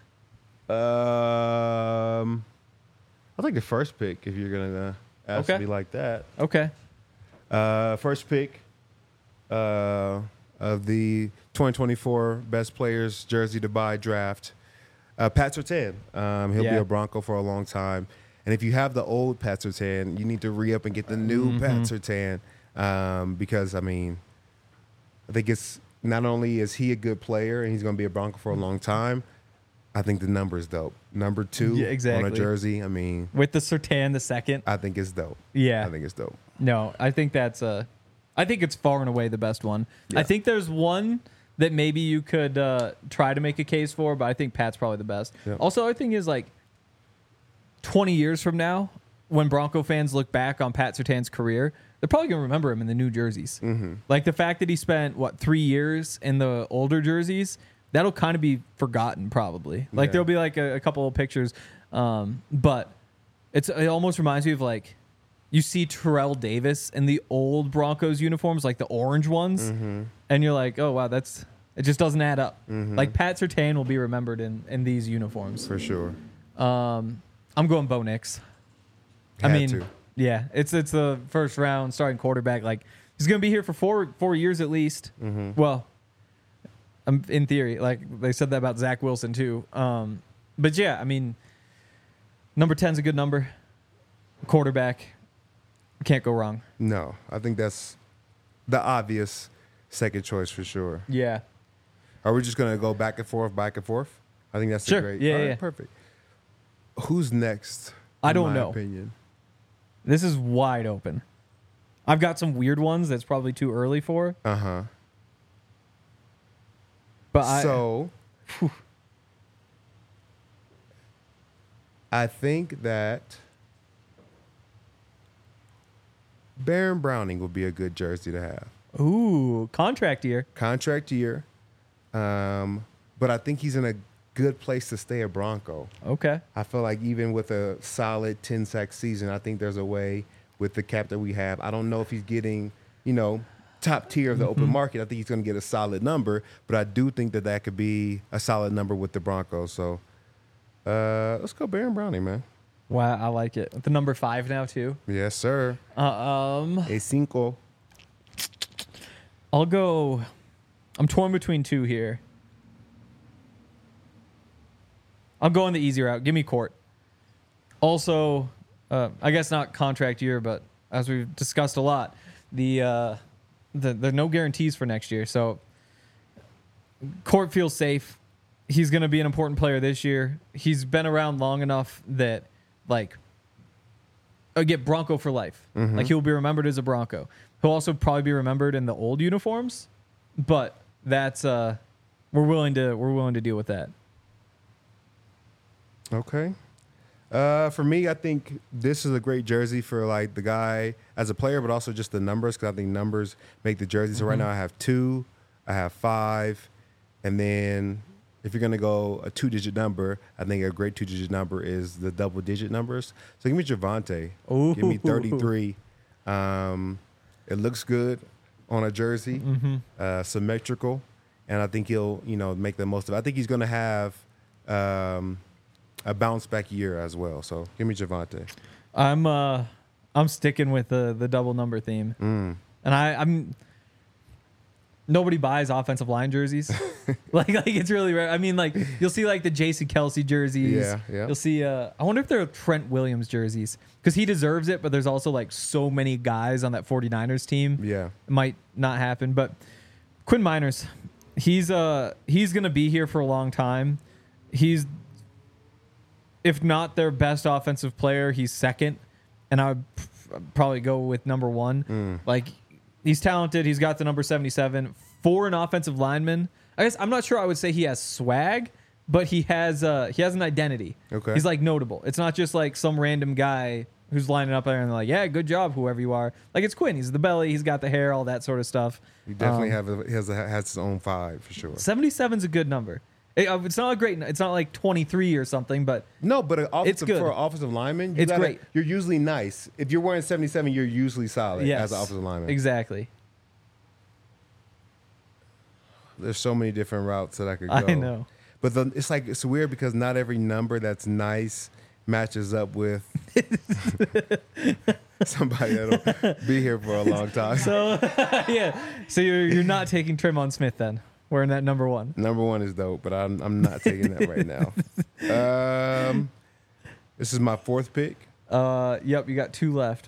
I'll take the first pick if you're gonna ask me like that. Okay. First pick of the 2024 Best Players Jersey to Buy draft. Pat Surtain. He'll be a Bronco for a long time. And if you have the old Pat Surtain, you need to re-up and get the new Pat Surtain. Because, I mean, I think it's not only is he a good player and he's going to be a Bronco for a long time, I think the number is dope. Number 2 on a jersey, I mean. With the Surtain, the second. I think it's dope. Yeah. I think it's dope. No, I think I think it's far and away the best one. Yeah. I think there's one that maybe you could try to make a case for, but I think Pat's probably the best. Yep. Also, the other thing is, like, 20 years from now, when Bronco fans look back on Pat Surtain's career, they're probably going to remember him in the new jerseys. Like, the fact that he spent, 3 years in the older jerseys, that'll kind of be forgotten probably. Like, there'll be, like, a couple of pictures. But it almost reminds me of, like, you see Terrell Davis in the old Broncos uniforms, like the orange ones, and you're like, oh, wow, it just doesn't add up. Like, Pat Surtain will be remembered in these uniforms. For sure. I'm going Bo Nix. Yeah, it's the first round starting quarterback. Like, he's going to be here for four years at least. Well, in theory, like they said that about Zach Wilson too. But yeah, I mean, number 10's a good number. Quarterback. Can't go wrong. No, I think that's the obvious second choice for sure. Yeah. Are we just going to go back and forth? I think that's a great. Yeah, all right, perfect. Who's next? I don't know. Opinion. This is wide open. I've got some weird ones that's probably too early for. But I think that Baron Browning would be a good jersey to have. Ooh, contract year. But I think he's in a good place to stay a Bronco. Okay. I feel like even with a solid 10-sack season, I think there's a way with the cap that we have. I don't know if he's getting, top tier of the open market. I think he's going to get a solid number, but I do think that could be a solid number with the Broncos. So let's go Baron Browning, man. Wow, I like it. The number 5 now too. Yes, sir. A cinco. I'll go. I'm torn between two here. I'm going the easy route. Give me Court. Also, I guess not contract year, but as we've discussed a lot, the no guarantees for next year. So Court feels safe. He's going to be an important player this year. He's been around long enough that, like, get Bronco for life. Mm-hmm. Like, he'll be remembered as a Bronco. He'll also probably be remembered in the old uniforms, but that's we're willing to deal with that. Okay. For me, I think this is a great jersey for like the guy as a player, but also just the numbers, because I think numbers make the jersey. So right now I have 2, I have 5, and then if you're gonna go a 2-digit number, I think a great 2-digit number is the double-digit numbers. So give me Javonte. Ooh. Give me 33. It looks good on a jersey, symmetrical, and I think he'll make the most of it. I think he's gonna have a bounce back year as well. So give me Javonte. I'm sticking with the double number theme, and I'm. Nobody buys offensive line jerseys. like it's really rare. I mean, like you'll see like the Jason Kelce jerseys. Yeah. You'll see. I wonder if there are Trent Williams jerseys because he deserves it. But there's also like so many guys on that 49ers team. Yeah, it might not happen. But Quinn Miners, he's gonna be here for a long time. He's, if not their best offensive player, he's second, and I would probably go with number 1. Like. He's talented. He's got the number 77 for an offensive lineman. I guess I'm not sure I would say he has swag, but he has an identity. Okay. He's like notable. It's not just like some random guy who's lining up there and they're like, yeah, good job, whoever you are. Like it's Quinn. He's the belly. He's got the hair, all that sort of stuff. He definitely has his own 5 for sure. 77's a good number. It's not a great. It's not like 23 or something, but no. But it's good. For an offensive lineman, it's great. You're usually nice. If you're wearing 77, you're usually solid as an offensive lineman. Exactly. There's so many different routes that I could go. I know. But it's weird because not every number that's nice matches up with somebody that'll be here for a long time. So yeah. So you're not taking Tremon Smith then? Wearing that number 1. Number 1 is dope, but I'm not taking that right now. This is my 4th pick. Yep, you got 2 left.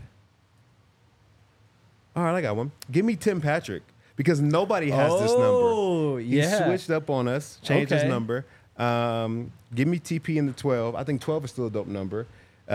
All right, I got one. Give me Tim Patrick because nobody has this number. Oh, yeah. He switched up on us, changed his number. Give me TP in the 12. I think 12 is still a dope number.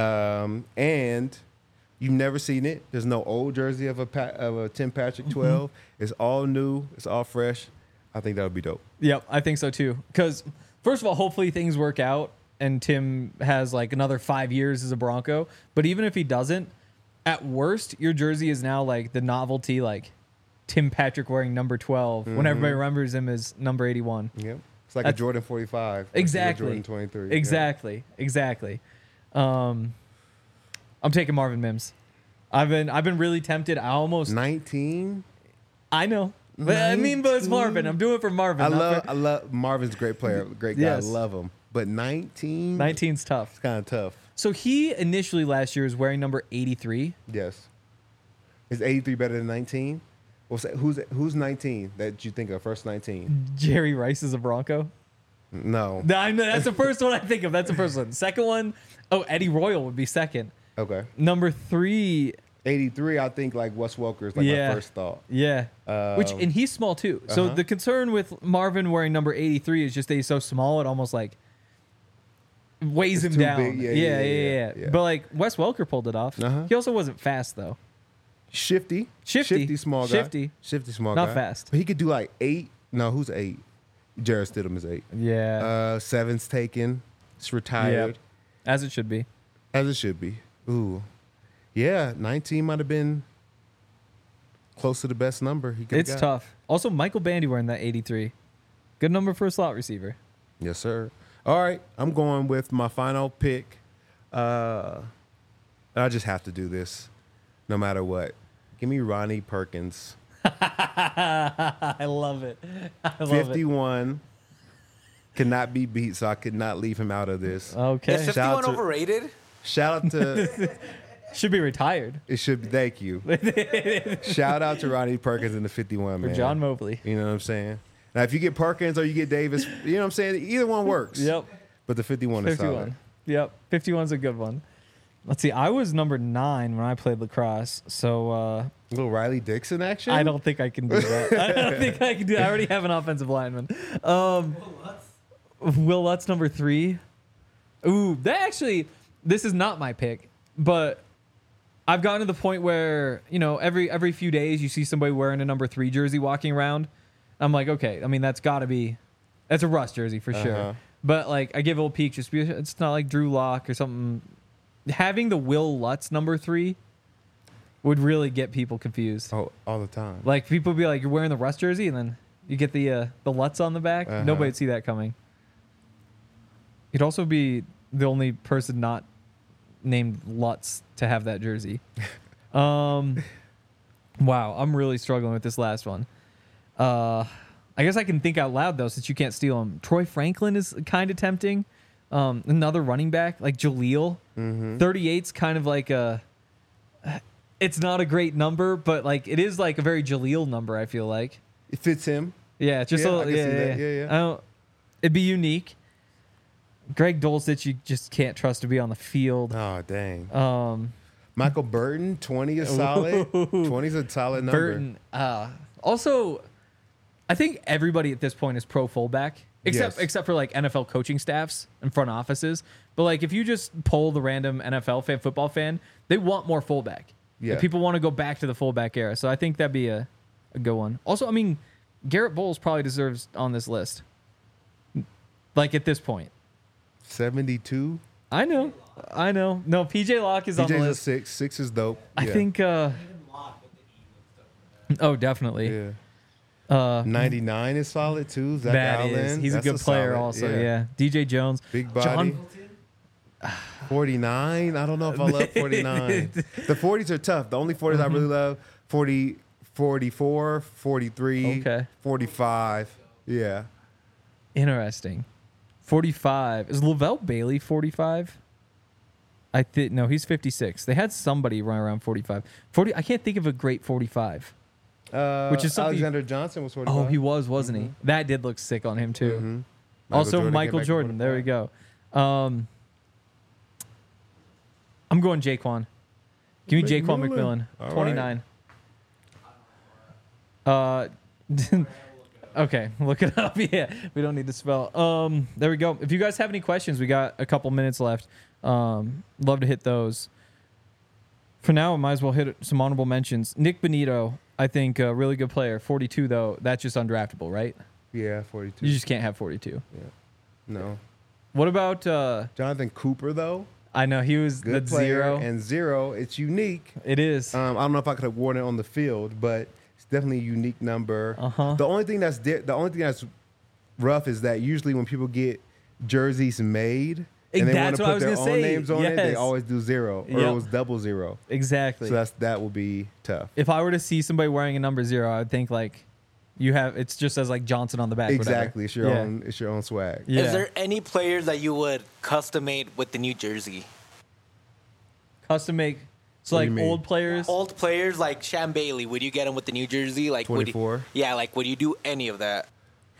And you've never seen it. There's no old jersey of a Tim Patrick 12. It's all new. It's all fresh. I think that would be dope. Yep, I think so too. Because first of all, hopefully things work out and Tim has like another 5 years as a Bronco. But even if he doesn't, at worst, your jersey is now like the novelty, like Tim Patrick wearing number 12 when everybody remembers him as number 81. Yep. It's like a Jordan 45. Exactly. A Jordan 23. Exactly. Yeah. Exactly. I'm taking Marvin Mims. I've been really tempted. I almost 19. I know. But I mean, but it's Marvin. I'm doing it for Marvin. I love Marvin's a great player, great guy. Yes. I love him. But 19's tough. It's kind of tough. So he initially last year was wearing number 83. Yes. Is 83 better than 19? Who's 19 that you think of? First 19. Jerry Rice is a Bronco. No. That's the first one I think of. That's the first one. Second one, Eddie Royal would be second. Okay. Number 3. 83, I think like Wes Welker is like my first thought. Yeah. And he's small too. So the concern with Marvin wearing number 83 is just that he's so small, it almost like weighs him down. Yeah. But like Wes Welker pulled it off. He also wasn't fast though. Shifty small guy. Shifty small guy. Not fast. But he could do like 8. No, who's 8? Jarrett Stidham is 8. Yeah. 7's taken. It's retired. Yep. As it should be. As it should be. Ooh. Yeah, 19 might have been close to the best number he could have got. Tough. Also, Michael Bandy wearing that 83. Good number for a slot receiver. Yes, sir. All right, I'm going with my final pick. I just have to do this no matter what. Give me Ronnie Perkins. I love it. 51. Cannot be beat, so I could not leave him out of this. Okay. Is 51 overrated? Shout out to Should be retired. It should be. Thank you. Shout out to Ronnie Perkins in the 51, man. Or John Mobley. You know what I'm saying? Now, if you get Perkins or you get Davis, you know what I'm saying? Either one works. Yep. But the 51 is solid. Yep. 51's a good one. Let's see. I was number 9 when I played lacrosse. So, little Riley Dixon action? I don't think I can do that. I don't think I can do that. I already have an offensive lineman. Will Lutz, number 3. Ooh, this is not my pick, but I've gotten to the point where, every few days you see somebody wearing a number 3 jersey walking around. I'm like, okay, I mean, that's a Russ jersey for sure. But like, I give old peak just because it's not like Drew Lock or something. Having the Will Lutz number 3 would really get people confused. Oh, all the time. Like, people would be like, you're wearing the Russ jersey, and then you get the Lutz on the back. Nobody would see that coming. You'd also be the only person not named Lutz to have that jersey. Wow, I'm really struggling with this last one. I guess I can think out loud, though, since you can't steal him. Troy Franklin is kind of tempting. Another running back, like Jaleel. 38's kind of like it's not a great number, but like it is like a very Jaleel number, I feel like. It fits him. Yeah, just a little. Yeah. It'd be unique. Greg Dulcich, you just can't trust to be on the field. Oh, dang. Michael Burton, 20 is solid. 20 is a solid number. Burton. Also, I think everybody at this point is pro fullback, except for like NFL coaching staffs and front offices. But like, if you just poll the random NFL fan, football fan, they want more fullback. Yeah. Like, people want to go back to the fullback era. So I think that'd be a good one. Also, I mean, Garrett Bowles probably deserves on this list. Like, at this point. 72. I know. No, PJ Locke is on the PJ's list. a 6. 6 is dope. I think. Oh, definitely. Yeah. 99 is solid too. Zach Allen. He's a good player solid, also. Yeah. DJ Jones. Big body. 49. I don't know if I love 49. The 40s are tough. The only 40s I really love, 40, 44, 43, 45. Yeah. Interesting. 45. Is Lavelle Bailey 45? I think no, he's 56. They had somebody run around 45. 40. I can't think of a great 45. Which is something. Alexander Johnson was 45. Oh, he was, wasn't he? That did look sick on him too. Also, Michael Jordan. There we go. I'm going Jaquan. Give me Jaquan McMillan. 29. Right. Okay, look it up. Yeah, we don't need to spell. There we go. If you guys have any questions, we got a couple minutes left. Love to hit those. For now, I might as well hit some honorable mentions. Nick Benito, I think a really good player. 42 though, that's just undraftable, right? Yeah, 42. You just can't have 42. Yeah. No. What about Jonathan Cooper though? I know he was good the player, 0. and 0. It's unique. It is. I don't know if I could have worn it on the field, but it's definitely a unique number. The only thing that's rough is that usually when people get jerseys made and they want to put their own names on it, they always do 0 or it was 00. Exactly. So that will be tough. If I were to see somebody wearing a number 0, I would think like it's just as like Johnson on the back. Exactly. It's your own. It's your own swag. Yeah. Is there any players that you would custom made with the new jersey? Custom make. So like old players? Old players like Sham Bailey, would you get him with the New Jersey? Like 24? Would you do any of that?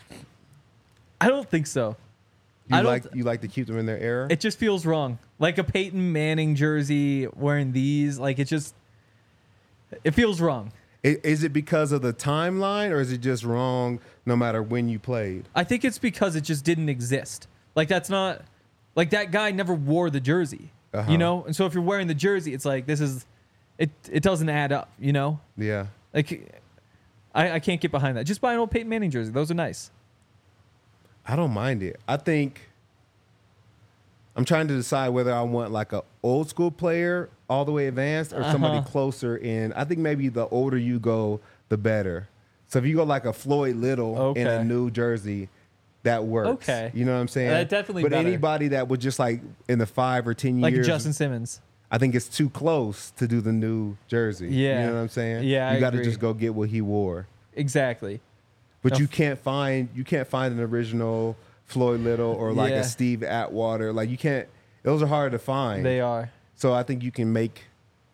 I don't think so. You like to keep them in their era? It just feels wrong. Like a Peyton Manning jersey wearing these, like it feels wrong. Is it because of the timeline or is it just wrong no matter when you played? I think it's because it just didn't exist. Like that's not, like that guy never wore the jersey. You know, and so if you're wearing the jersey, it's like it doesn't add up. You know, yeah. Like I can't get behind that. Just buy an old Peyton Manning jersey; those are nice. I don't mind it. I think I'm trying to decide whether I want like a old school player all the way advanced or somebody closer in. I think maybe the older you go, the better. So if you go like a Floyd Little in a new jersey, that works. Okay. You know what I'm saying? Definitely But better. Anybody that would just like in the 5 or 10 like years. Like Justin Simmons. I think it's too close to do the new jersey. Yeah. You know what I'm saying? Yeah, you got to just go get what he wore. Exactly. But you can't find an original Floyd Little or like a Steve Atwater. Like you can't, those are hard to find. They are. So I think you can make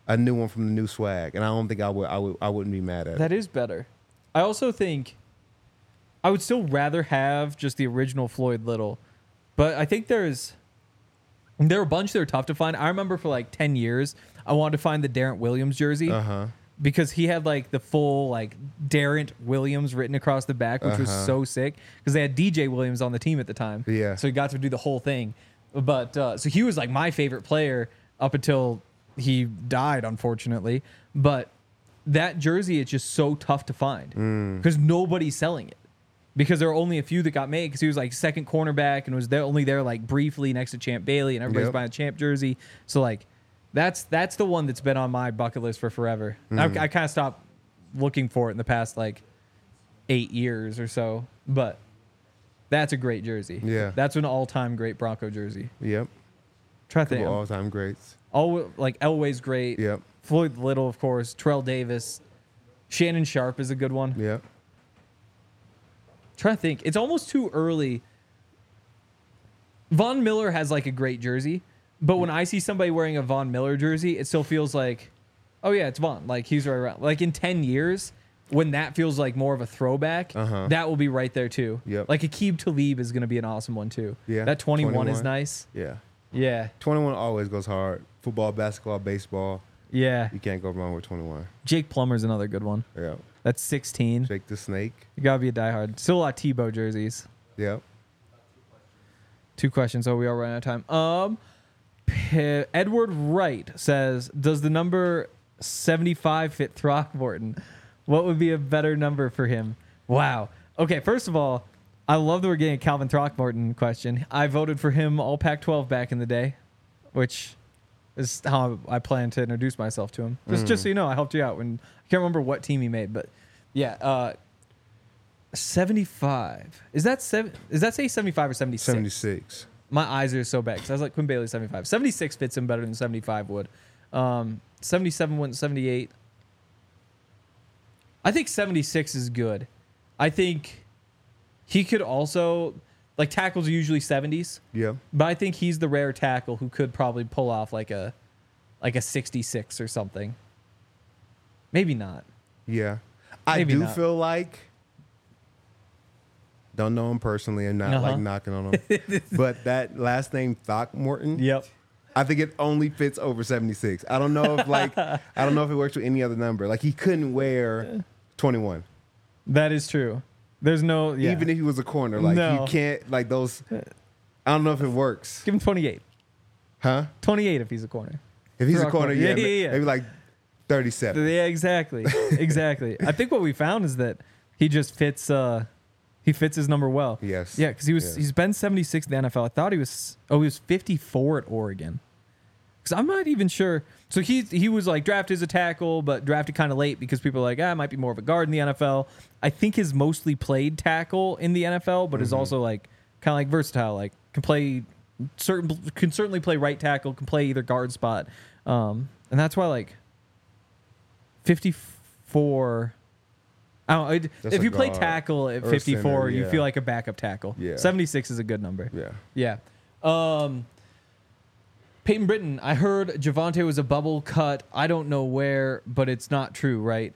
a new one from the new swag, and I don't think I wouldn't be mad at it. That is better. I also think I would still rather have just the original Floyd Little, but I think there are a bunch that are tough to find. I remember for like 10 years, I wanted to find the Darrent Williams jersey because he had like the full like Darrent Williams written across the back, which was so sick because they had DJ Williams on the team at the time. Yeah. So he got to do the whole thing. But so he was like my favorite player up until he died, unfortunately. But that jersey, it's just so tough to find because nobody's selling it. Because there are only a few that got made because he was like second cornerback and was only there like briefly next to Champ Bailey and everybody's buying a Champ jersey. So like that's the one that's been on my bucket list for forever. I kind of stopped looking for it in the past like 8 years or so, but that's a great jersey. Yeah, that's an all-time great Bronco jersey. Yep. Try to think. All-time greats. Like Elway's great. Yep. Floyd Little, of course. Terrell Davis. Shannon Sharp is a good one. Yep. Trying to think. It's almost too early. Von Miller has like a great jersey, but when I see somebody wearing a Von Miller jersey, it still feels like, oh yeah, it's Von. Like he's right around. Like in 10 years, when that feels like more of a throwback, that will be right there too. Yep. Like Aqib Talib is going to be an awesome one too. Yeah. That 21 is nice. Yeah. Yeah. 21 always goes hard. Football, basketball, baseball. Yeah. You can't go wrong with 21. Jake Plummer's another good one. Yeah. That's 16. Jake the Snake. You got to be a diehard. Still a lot of Tebow jerseys. Yep. 2 questions. Oh, we are running out of time. Edward Wright says, does the number 75 fit Throckmorton? What would be a better number for him? Wow. Okay, first of all, I love that we're getting a Calvin Throckmorton question. I voted for him all Pac-12 back in the day, which is how I plan to introduce myself to him. Just so you know, I helped you out when I can't remember what team he made, but yeah, 75. Is that say 75 or 76? 76. My eyes are so bad because I was like Quinn Bailey 75. 76 fits him better than 75 would. 77 went 78. I think 76 is good. I think he could also, like, tackles are usually 70s. Yeah. But I think he's the rare tackle who could probably pull off like a 66 or something. Maybe not. Yeah. I do feel like, don't know him personally and not like knocking on him, but that last name Throckmorton. Yep. I think it only fits over 76. I don't know if it works with any other number. Like he couldn't wear 21. That is true. There's no even if he was a corner, like you can't like those. I don't know if it works. Give him 28. Huh? 28 if he's a corner. If he's a corner, yeah. Maybe like 37. Yeah, exactly. Exactly. I think what we found is that he just fits he fits his number well. Yes. Yeah, because he's been 76 in the NFL. I thought he was 54 at Oregon. Because I'm not even sure. So he was like drafted as a tackle, but drafted kind of late because people are like, it might be more of a guard in the NFL. I think his mostly played tackle in the NFL, but is also like kind of like versatile. Like can certainly play right tackle, can play either guard spot. And that's why like 54. If you play tackle at 54, center, you feel like a backup tackle. Yeah. 76 is a good number. Yeah. Yeah. Peyton Britton, I heard Javonte was a bubble cut. I don't know where, but it's not true, right?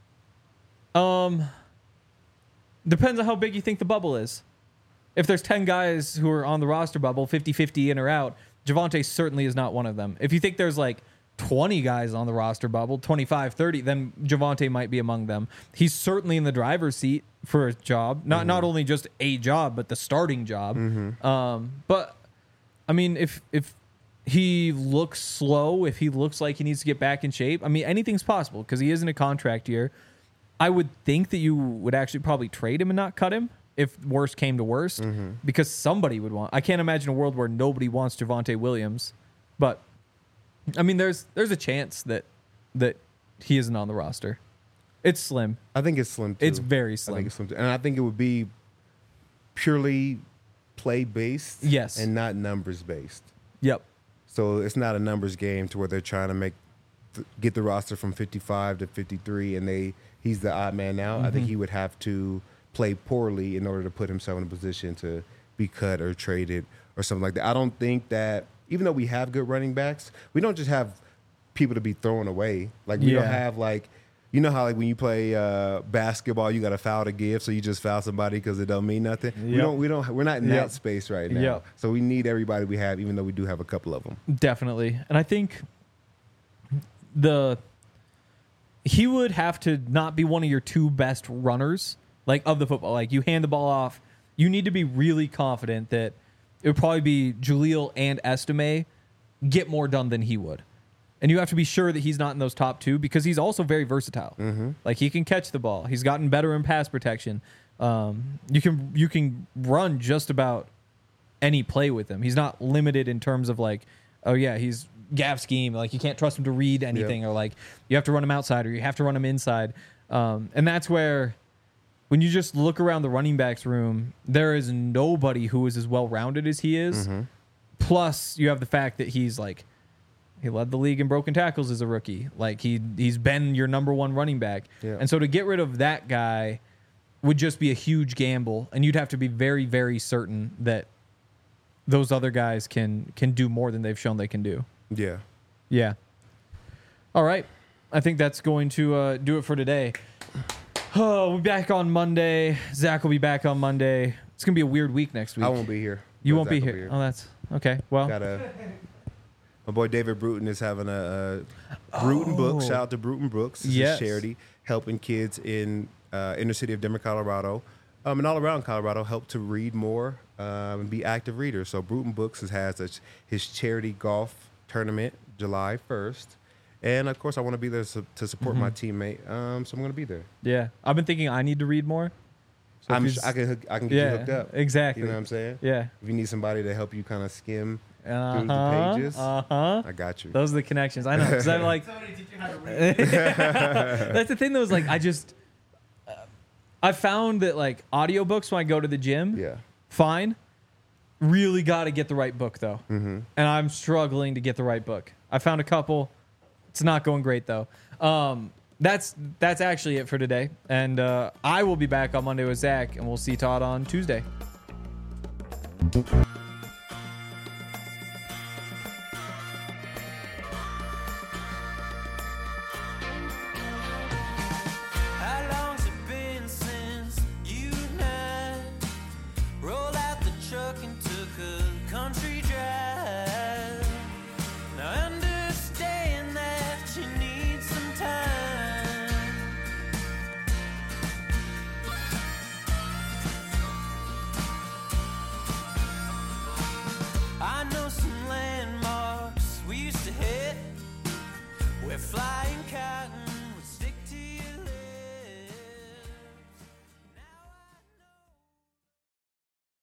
Depends on how big you think the bubble is. If there's 10 guys who are on the roster bubble, 50-50 in or out, Javonte certainly is not one of them. If you think there's like 20 guys on the roster bubble, 25, 30, then Javonte might be among them. He's certainly in the driver's seat for a job. Not only just a job, but the starting job. But, I mean, if he looks slow, if he looks like he needs to get back in shape, I mean, anything's possible because he is in a contract year. I would think that you would actually probably trade him and not cut him if worst came to worst because somebody would want. I can't imagine a world where nobody wants Javonte Williams, but I mean, there's a chance that he isn't on the roster. It's slim. I think it's slim too. It's very slim. I think it's slim too. And I think it would be purely play based, yes, and not numbers based. Yep. So it's not a numbers game to where they're trying to get the roster from 55 to 53, and he's the odd man out. I think he would have to play poorly in order to put himself in a position to be cut or traded or something like that. I don't think that, even though we have good running backs, we don't just have people to be thrown away. Like we don't have like, you know how like when you play basketball, you got a foul to give, so you just foul somebody because it don't mean nothing. Yep. We're not in that space right now. Yep. So we need everybody we have, even though we do have a couple of them. Definitely, and I think he would have to not be one of your two best runners, like of the football. Like you hand the ball off, you need to be really confident that it would probably be Jaleel and Estime get more done than he would. And you have to be sure that he's not in those top two because he's also very versatile. Mm-hmm. Like he can catch the ball. He's gotten better in pass protection. You can run just about any play with him. He's not limited in terms of like, oh yeah, he's gaff scheme. Like you can't trust him to read anything, or like you have to run him outside or you have to run him inside. And that's where when you just look around the running backs room, there is nobody who is as well rounded as he is. Mm-hmm. Plus, you have the fact that he's like, he led the league in broken tackles as a rookie. Like he's been your number one running back. Yeah. And so to get rid of that guy would just be a huge gamble. And you'd have to be very, very certain that those other guys can do more than they've shown they can do. Yeah. Yeah. All right. I think that's going to do it for today. Oh, we'll be back on Monday. Zach will be back on Monday. It's going to be a weird week next week. I won't be here. You won't be here. Oh, that's okay. Well, my boy David Bruton is having a Bruton Books. Shout out to Bruton Books. It's a charity helping kids in inner city of Denver, Colorado, and all around Colorado help to read more and be active readers. So Bruton Books has his charity golf tournament July 1st. And, of course, I want to be there to support my teammate, so I'm going to be there. Yeah. I've been thinking I need to read more. So I can get you hooked up. Exactly. You know what I'm saying? Yeah. If you need somebody to help you kind of skim through the pages, I got you. Those are the connections. I know. Because I'm like, somebody teach you how to read. That's the thing, though, is like, I found that, like, audiobooks when I go to the gym, fine. Really got to get the right book, though. Mm-hmm. And I'm struggling to get the right book. I found a couple. It's not going great, though. That's actually it for today. And I will be back on Monday with Zach, and we'll see Todd on Tuesday. How long's it been since you and I rolled out the truck and took a country drive? Now understand that you need some time. I know some landmarks we used to hit. We're flying cotton